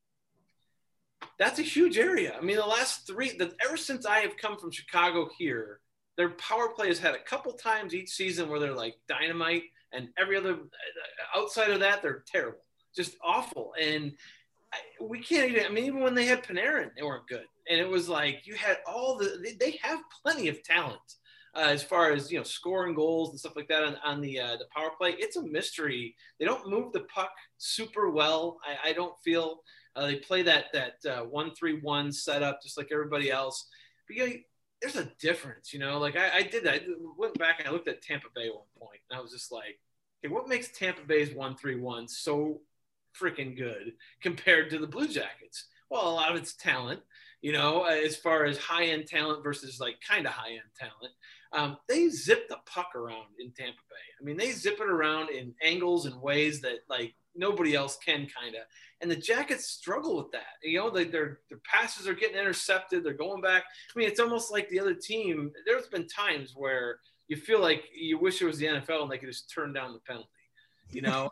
F: That's a huge area. The last 3, ever since I have come from Chicago here, their power play has had a couple times each season where they're like dynamite, and every other outside of that, they're terrible, just awful. And we can't even when they had Panarin, they weren't good. And it was like you had they have plenty of talent. As far as, scoring goals and stuff like that on the power play. It's a mystery. They don't move the puck super well. I don't feel they play that 1-3-1 setup just like everybody else. But, there's a difference, like I did that. I went back and I looked at Tampa Bay at one point, and I was just like, okay, what makes Tampa Bay's 1-3-1 so freaking good compared to the Blue Jackets? Well, a lot of it's talent, as far as high-end talent versus like kind of high-end talent. They zip the puck around in Tampa Bay. They zip it around in angles and ways that like nobody else can kind of. And the Jackets struggle with that. Their passes are getting intercepted. They're going back. It's almost like the other team. There's been times where you feel like you wish it was the NFL and they could just turn down the penalty,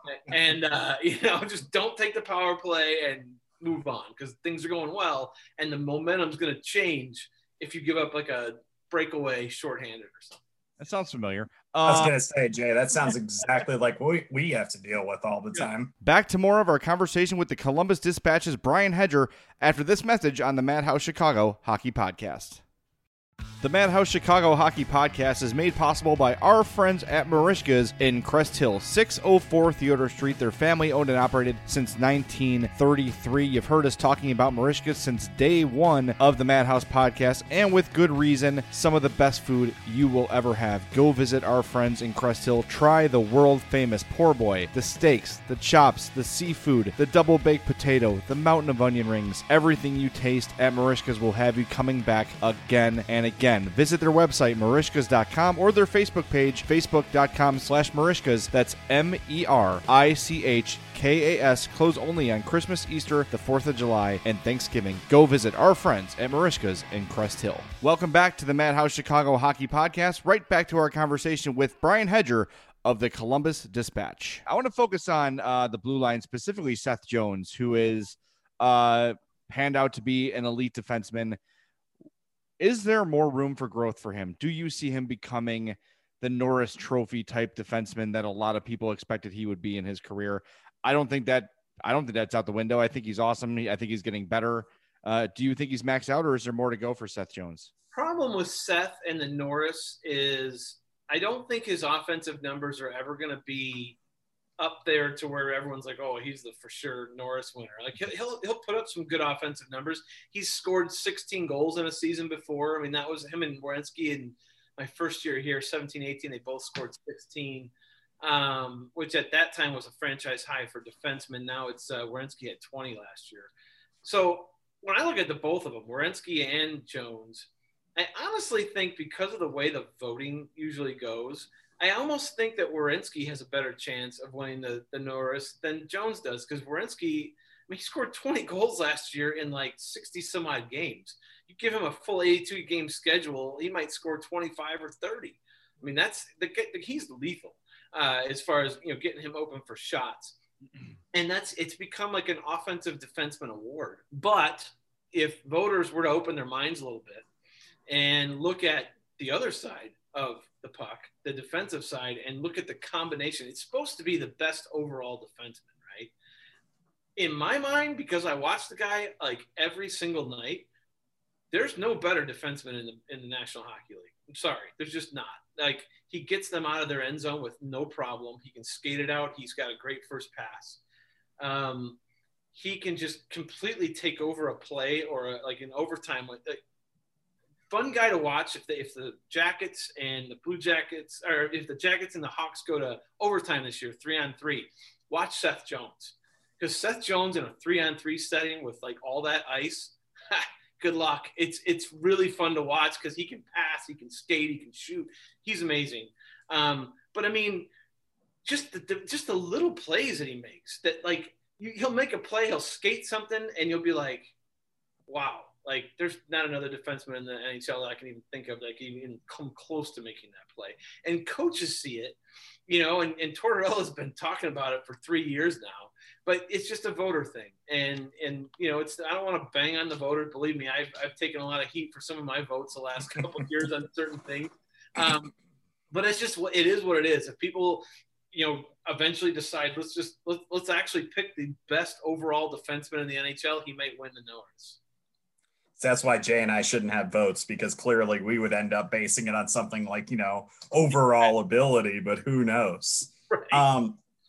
F: and, just don't take the power play and move on because things are going well. And the momentum's going to change if you give up like a breakaway shorthanded or something.
C: That sounds familiar.
E: I was going to say, Jay, that sounds exactly like what we have to deal with all the time.
C: Back to more of our conversation with the Columbus Dispatch's Brian Hedger after this message on the Madhouse Chicago Hockey Podcast. The Madhouse Chicago Hockey Podcast is made possible by our friends at Merichka's in Crest Hill, 604 Theodore Street. They're family owned and operated since 1933. You've heard us talking about Merichka's since day one of the Madhouse Podcast, and with good reason. Some of the best food you will ever have. Go visit our friends in Crest Hill. Try the world famous poor boy, the steaks, the chops, the seafood, the double baked potato, the mountain of onion rings. Everything you taste at Merichka's will have you coming back again and again. Visit their website, Merichkas.com, or their Facebook page, Facebook.com/Merichkas. That's MERICHKAS. Close only on Christmas, Easter, the 4th of July, and Thanksgiving. Go visit our friends at Merichkas in Crest Hill. Welcome back to the Madhouse Chicago Hockey Podcast. Right back to our conversation with Brian Hedger of the Columbus Dispatch. I want to focus on the blue line, specifically Seth Jones, who is panned out to be an elite defenseman. Is there more room for growth for him? Do you see him becoming the Norris Trophy type defenseman that a lot of people expected he would be in his career? I don't think that's out the window. I think he's awesome. I think he's getting better. Do you think he's maxed out, or is there more to go for Seth Jones?
F: Problem with Seth and the Norris is I don't think his offensive numbers are ever going to be up there to where everyone's like, oh, he's the for sure Norris winner. Like he'll put up some good offensive numbers. He's scored 16 goals in a season before. I mean, that was him and Werenski in my first year here, 17-18. They both scored 16, which at that time was a franchise high for defensemen. Now it's Werenski had 20 last year. So when I look at the both of them, Werenski and Jones, I honestly think because of the way the voting usually goes, I almost think that Werenski has a better chance of winning the Norris than Jones does, because Werenski, he scored 20 goals last year in like 60 some odd games. You give him a full 82 game schedule, he might score 25 or 30. I mean, he's lethal as far as getting him open for shots, and it's become like an offensive defenseman award. But if voters were to open their minds a little bit and look at the other side of the puck, the defensive side, and look at the combination, it's supposed to be the best overall defenseman, right? In my mind, because I watch the guy like every single night, there's no better defenseman in the National Hockey League. I'm sorry, there's just not. Like, he gets them out of their end zone with no problem. He can skate it out. He's got a great first pass. He can just completely take over a play or like an overtime. Fun guy to watch if the Jackets and the Blue Jackets, or if the Jackets and the Hawks go to overtime this year, 3-on-3, watch Seth Jones. Because Seth Jones in a 3-on-3 setting with like all that ice, good luck. It's really fun to watch because he can pass, he can skate, he can shoot. He's amazing. But I mean, just the little plays that he makes, that like he'll make a play, he'll skate something, and you'll be like, wow. Like, there's not another defenseman in the NHL that I can even think of that can even come close to making that play. And coaches see it, and Tortorella's been talking about it for 3 years now. But it's just a voter thing. And I don't want to bang on the voters. Believe me, I've taken a lot of heat for some of my votes the last couple of years on certain things. But it's just it is what it is. If people, eventually decide, let's actually pick the best overall defenseman in the NHL, he might win the Norris.
E: So that's why Jay and I shouldn't have votes, because clearly we would end up basing it on something like, overall ability, but who knows? Right.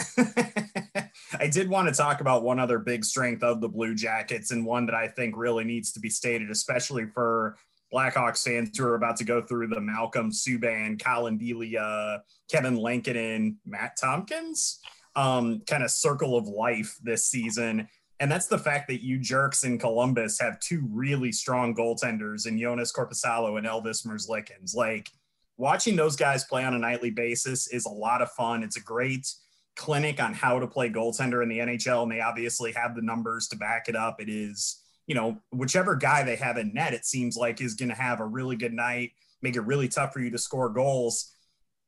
E: I did want to talk about one other big strength of the Blue Jackets, and one that I think really needs to be stated, especially for Blackhawks fans who are about to go through the Malcolm Subban, Colin Delia, Kevin Lankinen, Matt Tompkins kind of circle of life this season. And that's the fact that you jerks in Columbus have two really strong goaltenders in Jonas Korpisalo and Elvis Merzlikins. Like, watching those guys play on a nightly basis is a lot of fun. It's a great clinic on how to play goaltender in the NHL, and they obviously have the numbers to back it up. It is, whichever guy they have in net, it seems like is going to have a really good night, make it really tough for you to score goals.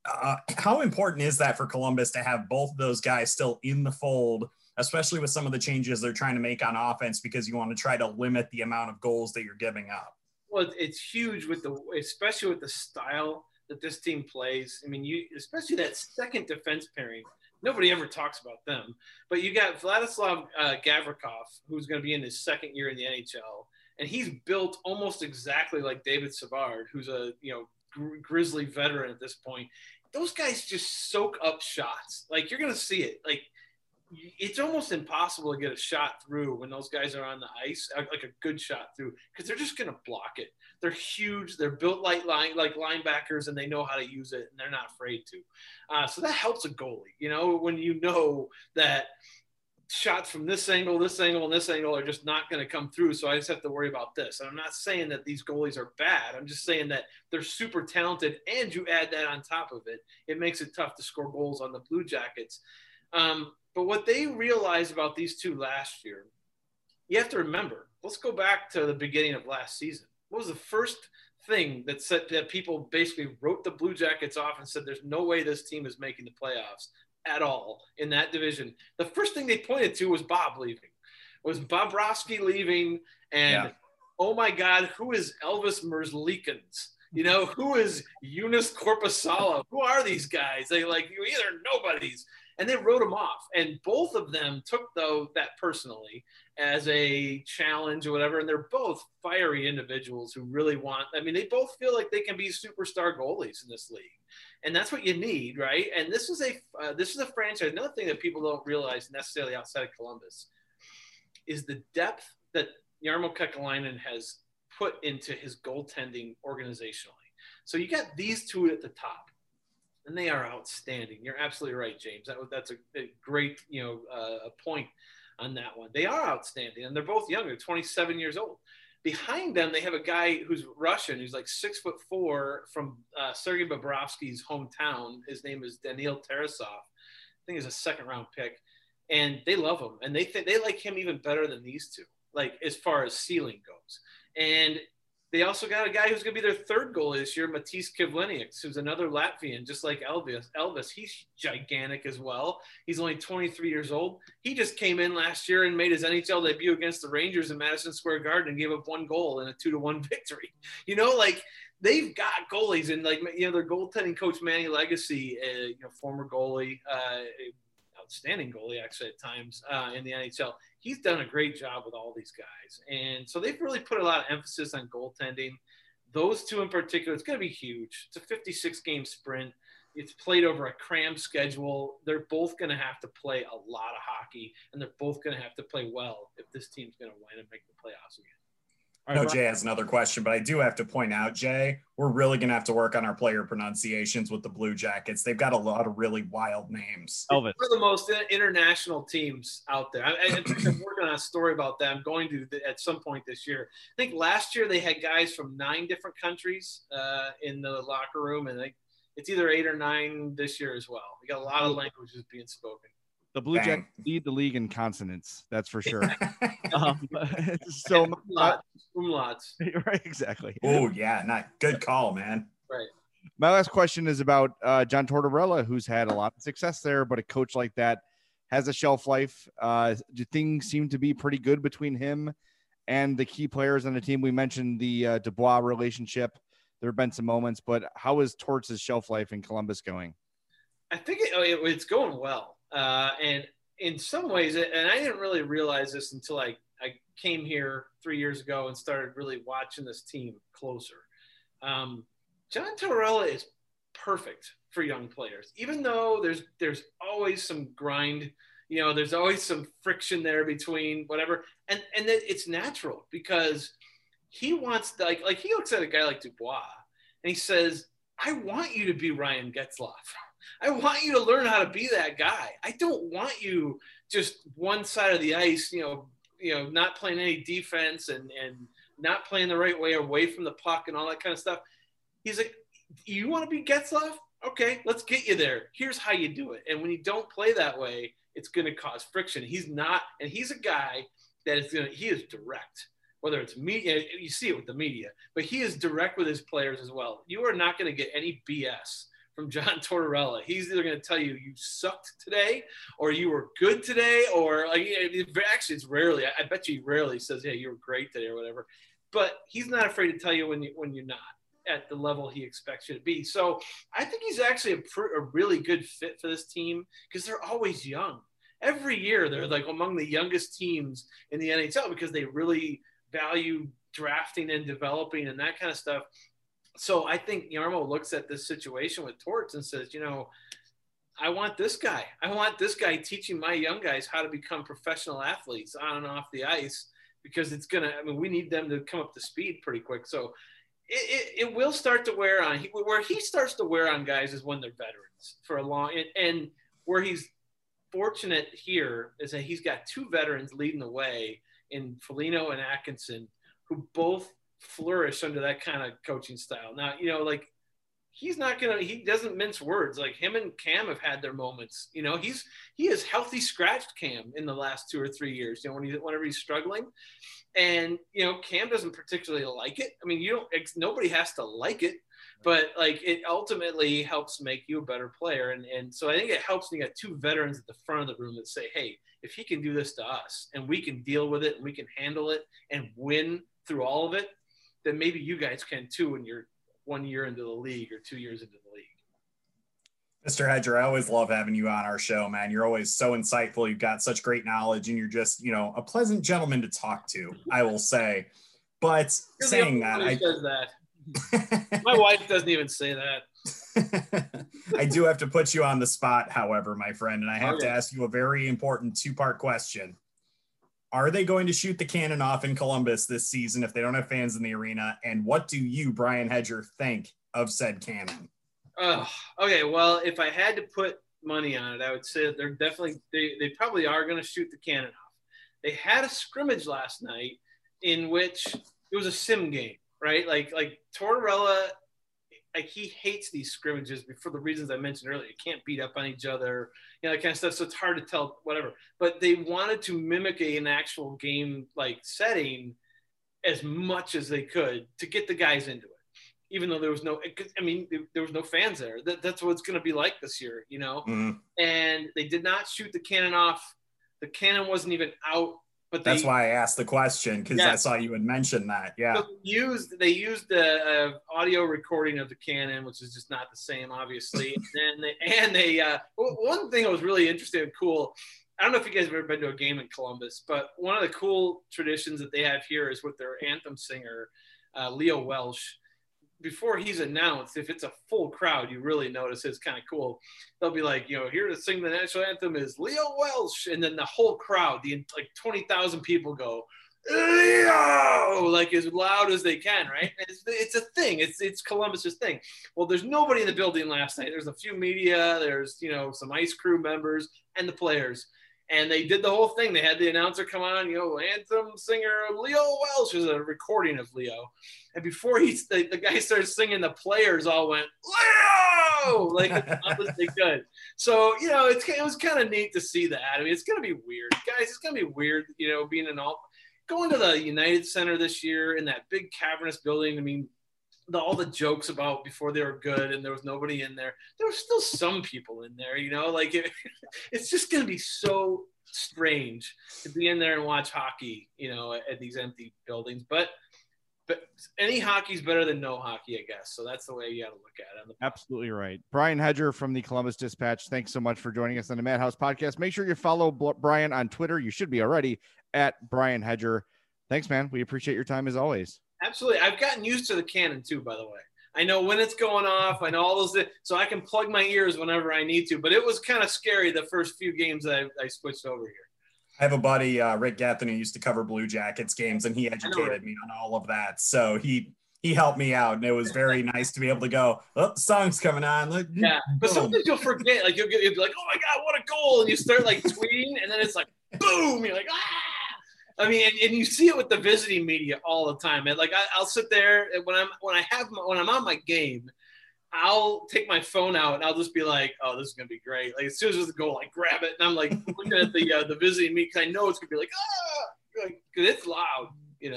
E: How important is that for Columbus to have both of those guys still in the fold, especially with some of the changes they're trying to make on offense, because you want to try to limit the amount of goals that you're giving up?
F: Well, it's huge especially with the style that this team plays. I mean, especially that second defense pairing. Nobody ever talks about them, but you got Vladislav Gavrikov, who's going to be in his second year in the NHL, and he's built almost exactly like David Savard, who's a Grizzly veteran at this point. Those guys just soak up shots. Like, you're going to see it. Like, it's almost impossible to get a shot through when those guys are on the ice, like a good shot through, because they're just going to block it. They're huge. They're built like linebackers, and they know how to use it, and they're not afraid to. So that helps a goalie, when you know that shots from this angle, and this angle are just not going to come through. So I just have to worry about this. And I'm not saying that these goalies are bad. I'm just saying that they're super talented, and you add that on top of it, it makes it tough to score goals on the Blue Jackets. But what they realized about these two last year, you have to remember, let's go back to the beginning of last season. What was the first thing that people basically wrote the Blue Jackets off and said, there's no way this team is making the playoffs at all in that division? The first thing they pointed to was Bob leaving, was Bobrovsky leaving. And oh my God, who is Elvis Merzlikins? You know, who is Eunice Corpusalo? Who are these guys? They like, you either nobodies. And they wrote them off. And both of them took that personally as a challenge or whatever. And they're both fiery individuals who really they both feel like they can be superstar goalies in this league. And that's what you need, right? And this is a franchise. Another thing that people don't realize necessarily outside of Columbus is the depth that Jarmo Kekalainen has put into his goaltending organizationally. So you got these two at the top, and they are outstanding. You're absolutely right, James. That's a great a point on that one. They are outstanding, and they're both young. They're 27 years old. Behind them, they have a guy who's Russian, who's like 6'4" from Sergei Bobrovsky's hometown. His name is Daniil Tarasov. I think he's a second-round pick, and they love him, and they like him even better than these two, like as far as ceiling goes. And they also got a guy who's going to be their third goalie this year, Matisse Kivlenieks, who's another Latvian, just like Elvis. He's gigantic as well. He's only 23 years old. He just came in last year and made his NHL debut against the Rangers in Madison Square Garden and gave up one goal in a 2-1 victory. They've got goalies, and their goaltending coach, Manny Legacy, former goalie, outstanding goalie actually at times in the NHL. He's done a great job with all these guys. And so they've really put a lot of emphasis on goaltending. Those two in particular, it's going to be huge. It's a 56-game sprint. It's played over a crammed schedule. They're both going to have to play a lot of hockey, and they're both going to have to play well if this team's going to win and make the playoffs again.
E: I know Jay has another question, but I do have to point out, Jay, we're really going to have to work on our player pronunciations with the Blue Jackets. They've got a lot of really wild names.
C: Elvis.
F: One of the most international teams out there. I'm working on a story about that. I'm going to at some point this year. I think last year they had guys from 9 different countries in the locker room, and it's either 8 or 9 this year as well. We got a lot of languages being spoken.
C: The Blue Jackets lead the league in consonants, that's for sure.
F: Umlauts.
C: Right, exactly.
E: Oh, yeah, not good call, man.
F: Right.
C: My last question is about John Tortorella, who's had a lot of success there, but a coach like that has a shelf life. Do things seem to be pretty good between him and the key players on the team? We mentioned the Dubois relationship. There have been some moments, but how is Torts' shelf life in Columbus going?
F: I think it's going well. And in some ways, and I didn't really realize this until I came here 3 years ago and started really watching this team closer. John Tortorella is perfect for young players, even though there's always some grind, there's always some friction there between whatever. And it's natural because he wants like he looks at a guy like Dubois and he says, I want you to be Ryan Getzlaf. I want you to learn how to be that guy. I don't want you just one side of the ice, not playing any defense and not playing the right way away from the puck and all that kind of stuff. He's like, you want to be Getzlaf? Okay, let's get you there. Here's how you do it. And when you don't play that way, it's going to cause friction. He's not, and he's a guy that he is direct. Whether it's media, you see it with the media, but he is direct with his players as well. You are not going to get any BS from John Tortorella. He's either going to tell you sucked today or you were good today, or actually it's rarely, I bet you he rarely says, yeah, you were great today or whatever, but he's not afraid to tell you when you're not at the level he expects you to be. So I think he's actually a really good fit for this team because they're always young. Every year they're like among the youngest teams in the NHL because they really value drafting and developing and that kind of stuff. So I think Jarmo looks at this situation with Torts and says, I want this guy. I want this guy teaching my young guys how to become professional athletes on and off the ice because we need them to come up to speed pretty quick. So it will start to wear on. Where he starts to wear on guys is when they're veterans for a long – and where he's fortunate here is that he's got 2 veterans leading the way in Foligno and Atkinson who both – flourish under that kind of coaching style. Now, he doesn't mince words. Like him and Cam have had their moments. He has healthy scratched Cam in the last 2 or 3 years, whenever he's struggling. And, Cam doesn't particularly like it. I mean, nobody has to like it, but like it ultimately helps make you a better player. And so I think it helps when you got 2 veterans at the front of the room that say, hey, if he can do this to us and we can deal with it and we can handle it and win through all of it, then maybe you guys can too when you're 1 year into the league or 2 years into the league.
E: Mr. Hedger, I always love having you on our show, man. You're always so insightful. You've got such great knowledge, and you're just, a pleasant gentleman to talk to, I will say. But
F: You're
E: saying that,
F: says that. My wife doesn't even say that.
E: I do have to put you on the spot, however, my friend, and I have to ask you a very important two-part question. Are they going to shoot the cannon off in Columbus this season if they don't have fans in the arena? And what do you, Brian Hedger, think of said cannon?
F: Okay, well, if I had to put money on it, I would say that they're definitely they probably are going to shoot the cannon off. They had a scrimmage last night in which it was a sim game, right? Like Tortorella, like he hates these scrimmages for the reasons I mentioned earlier. You can't beat up on each other, that kind of stuff. So it's hard to tell whatever. But they wanted to mimic an actual game like setting as much as they could to get the guys into it. Even though there was no fans there. That's what it's going to be like this year,
E: Mm-hmm.
F: And they did not shoot the cannon off. The cannon wasn't even out. But
E: that's why I asked the question, because I saw you had mentioned that. Yeah.
F: So they used the audio recording of the cannon, which is just not the same, obviously. and they one thing that was really interesting and cool. I don't know if you guys have ever been to a game in Columbus, but one of the cool traditions that they have here is with their anthem singer, Leo Welsh. Before he's announced, if it's a full crowd, you really notice it's kind of cool. They'll be like, here to sing the national anthem is Leo Welsh. And then the whole crowd, like 20,000 people go, Leo, like as loud as they can, right? It's a thing. It's Columbus's thing. Well, there's nobody in the building last night. There's a few media. There's, some ice crew members and the players. And they did the whole thing. They had the announcer come on, anthem singer Leo Welsh is a recording of Leo. And before the guy started singing, the players all went, Leo, like as loud as they could. So, it was kind of neat to see that. I mean, it's going to be weird. Guys, it's going to be weird, going to the United Center this year in that big cavernous building. I mean, all the jokes about before they were good and there was nobody in there. There were still some people in there, it's just going to be so strange to be in there and watch hockey, at these empty buildings. But any hockey's better than no hockey, I guess. So that's the way you got to look at it.
C: Absolutely right. Brian Hedger from the Columbus Dispatch. Thanks so much for joining us on the Madhouse Podcast. Make sure you follow Brian on Twitter. You should be already at Brian Hedger. Thanks, man. We appreciate your time as always.
F: Absolutely. I've gotten used to the cannon too, by the way. I know when it's going off. I know all those, so I can plug my ears whenever I need to. But it was kind of scary the first few games that I switched over here.
E: I have a buddy, Rick Gethin, who used to cover Blue Jackets games, and he educated me on all of that. So he helped me out, and it was very nice to be able to go, oh, the song's coming on. Like,
F: yeah, but sometimes you'll forget. Like you'll be like, oh my God, what a goal! And you start like tweeting, and then it's like, boom! You're like, ah! I mean, and you see it with the visiting media all the time. And like I'll sit there when I'm on my game, I'll take my phone out and I'll just be like, oh, this is gonna be great. Like as soon as there's a goal, I grab it and I'm like looking at the visiting media because I know it's gonna be like, because it's loud,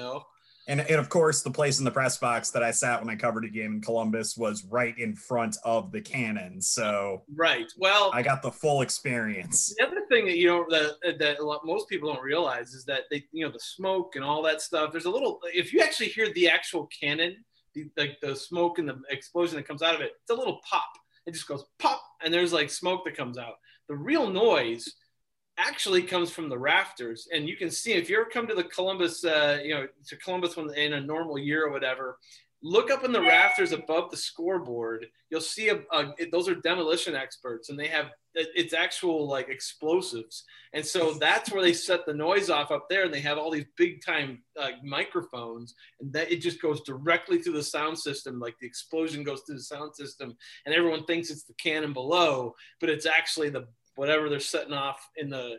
E: And of course, the place in the press box that I sat when I covered a game in Columbus was right in front of the cannon. So
F: right. Well,
E: I got the full experience.
F: The other thing that most people don't realize is that the smoke and all that stuff. There's a little. If you actually hear the actual cannon, the smoke and the explosion that comes out of it, it's a little pop. It just goes pop, and there's like smoke that comes out. The real noise actually comes from the rafters, and you can see if you ever come to the Columbus, to Columbus in a normal year or whatever, look up in the rafters above the scoreboard. You'll see those are demolition experts, and they have it's actual like explosives, and so that's where they set the noise off up there, and they have all these big time microphones, and that it just goes directly through the sound system. Like the explosion goes through the sound system, and everyone thinks it's the cannon below, but it's actually whatever they're setting off in the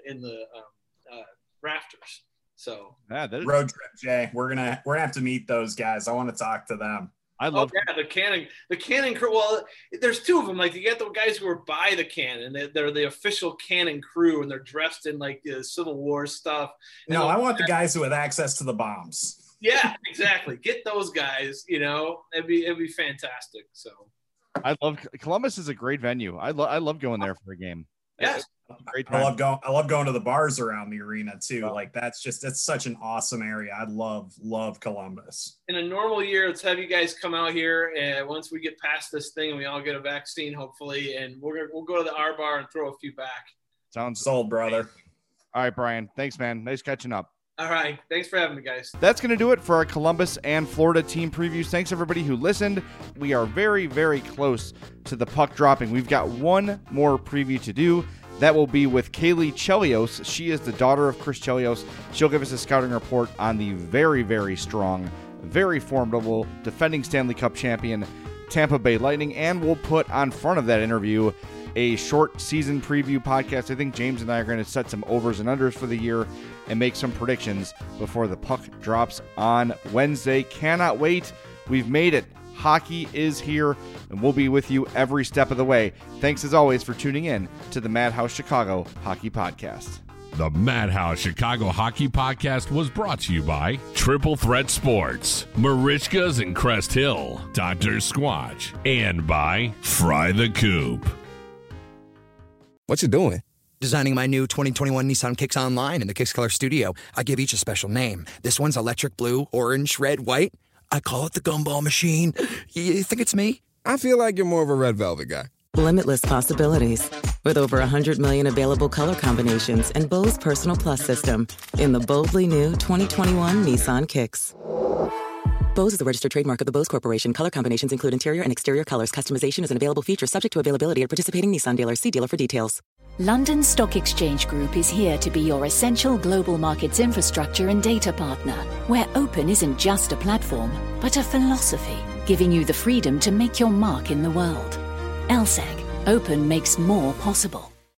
F: rafters. So
E: road trip, Jay. We're gonna have to meet those guys. I want to talk to them.
C: I love
F: the cannon crew. Well, there's two of them. Like you get the guys who are by the cannon. They're the official cannon crew, and they're dressed in like the Civil War stuff.
E: No, I want the guys who have access to the bombs.
F: Yeah, exactly. Get those guys. It'd be fantastic. So
C: I love Columbus is a great venue. I love going there for a game.
F: Yes.
C: Great
E: I
C: time.
E: love going to the bars around the arena too.
C: Wow.
E: Like that's such an awesome area. I love Columbus.
F: In a normal year, let's have you guys come out here, and once we get past this thing and we all get a vaccine, hopefully, and we'll go to the R Bar and throw a few back.
C: Sounds
E: sold, brother.
C: All right, Brian. Thanks, man. Nice catching up.
F: All right. Thanks for having me, guys.
C: That's going to do it for our Columbus and Florida team previews. Thanks, everybody who listened. We are very, very close to the puck dropping. We've got one more preview to do. That will be with Kaylee Chelios. She is the daughter of Chris Chelios. She'll give us a scouting report on the very, very strong, very formidable defending Stanley Cup champion Tampa Bay Lightning. And we'll put on front of that interview a short season preview podcast. I think James and I are going to set some overs and unders for the year and make some predictions before the puck drops on Wednesday. Cannot wait. We've made it. Hockey is here, and we'll be with you every step of the way. Thanks as always for tuning in to the Madhouse Chicago Hockey Podcast.
B: The Madhouse Chicago Hockey Podcast was brought to you by Triple Threat Sports, Marishka's in Crest Hill, Dr. Squatch, and by Fry the Coop.
G: What you doing? Designing my new 2021 Nissan Kicks online in the Kicks Color Studio. I give each a special name. This one's electric blue, orange, red, white. I call it the Gumball Machine. You think it's me?
H: I feel like you're more of a Red Velvet guy.
I: Limitless possibilities. With over 100 million available color combinations and Bose Personal Plus system in the boldly new 2021 Nissan Kicks. Bose is the registered trademark of the Bose Corporation. Color combinations include interior and exterior colors. Customization is an available feature subject to availability at participating Nissan dealers. See dealer for details.
J: London Stock Exchange Group is here to be your essential global markets infrastructure and data partner, where open isn't just a platform, but a philosophy, giving you the freedom to make your mark in the world. LSEG. Open makes more possible.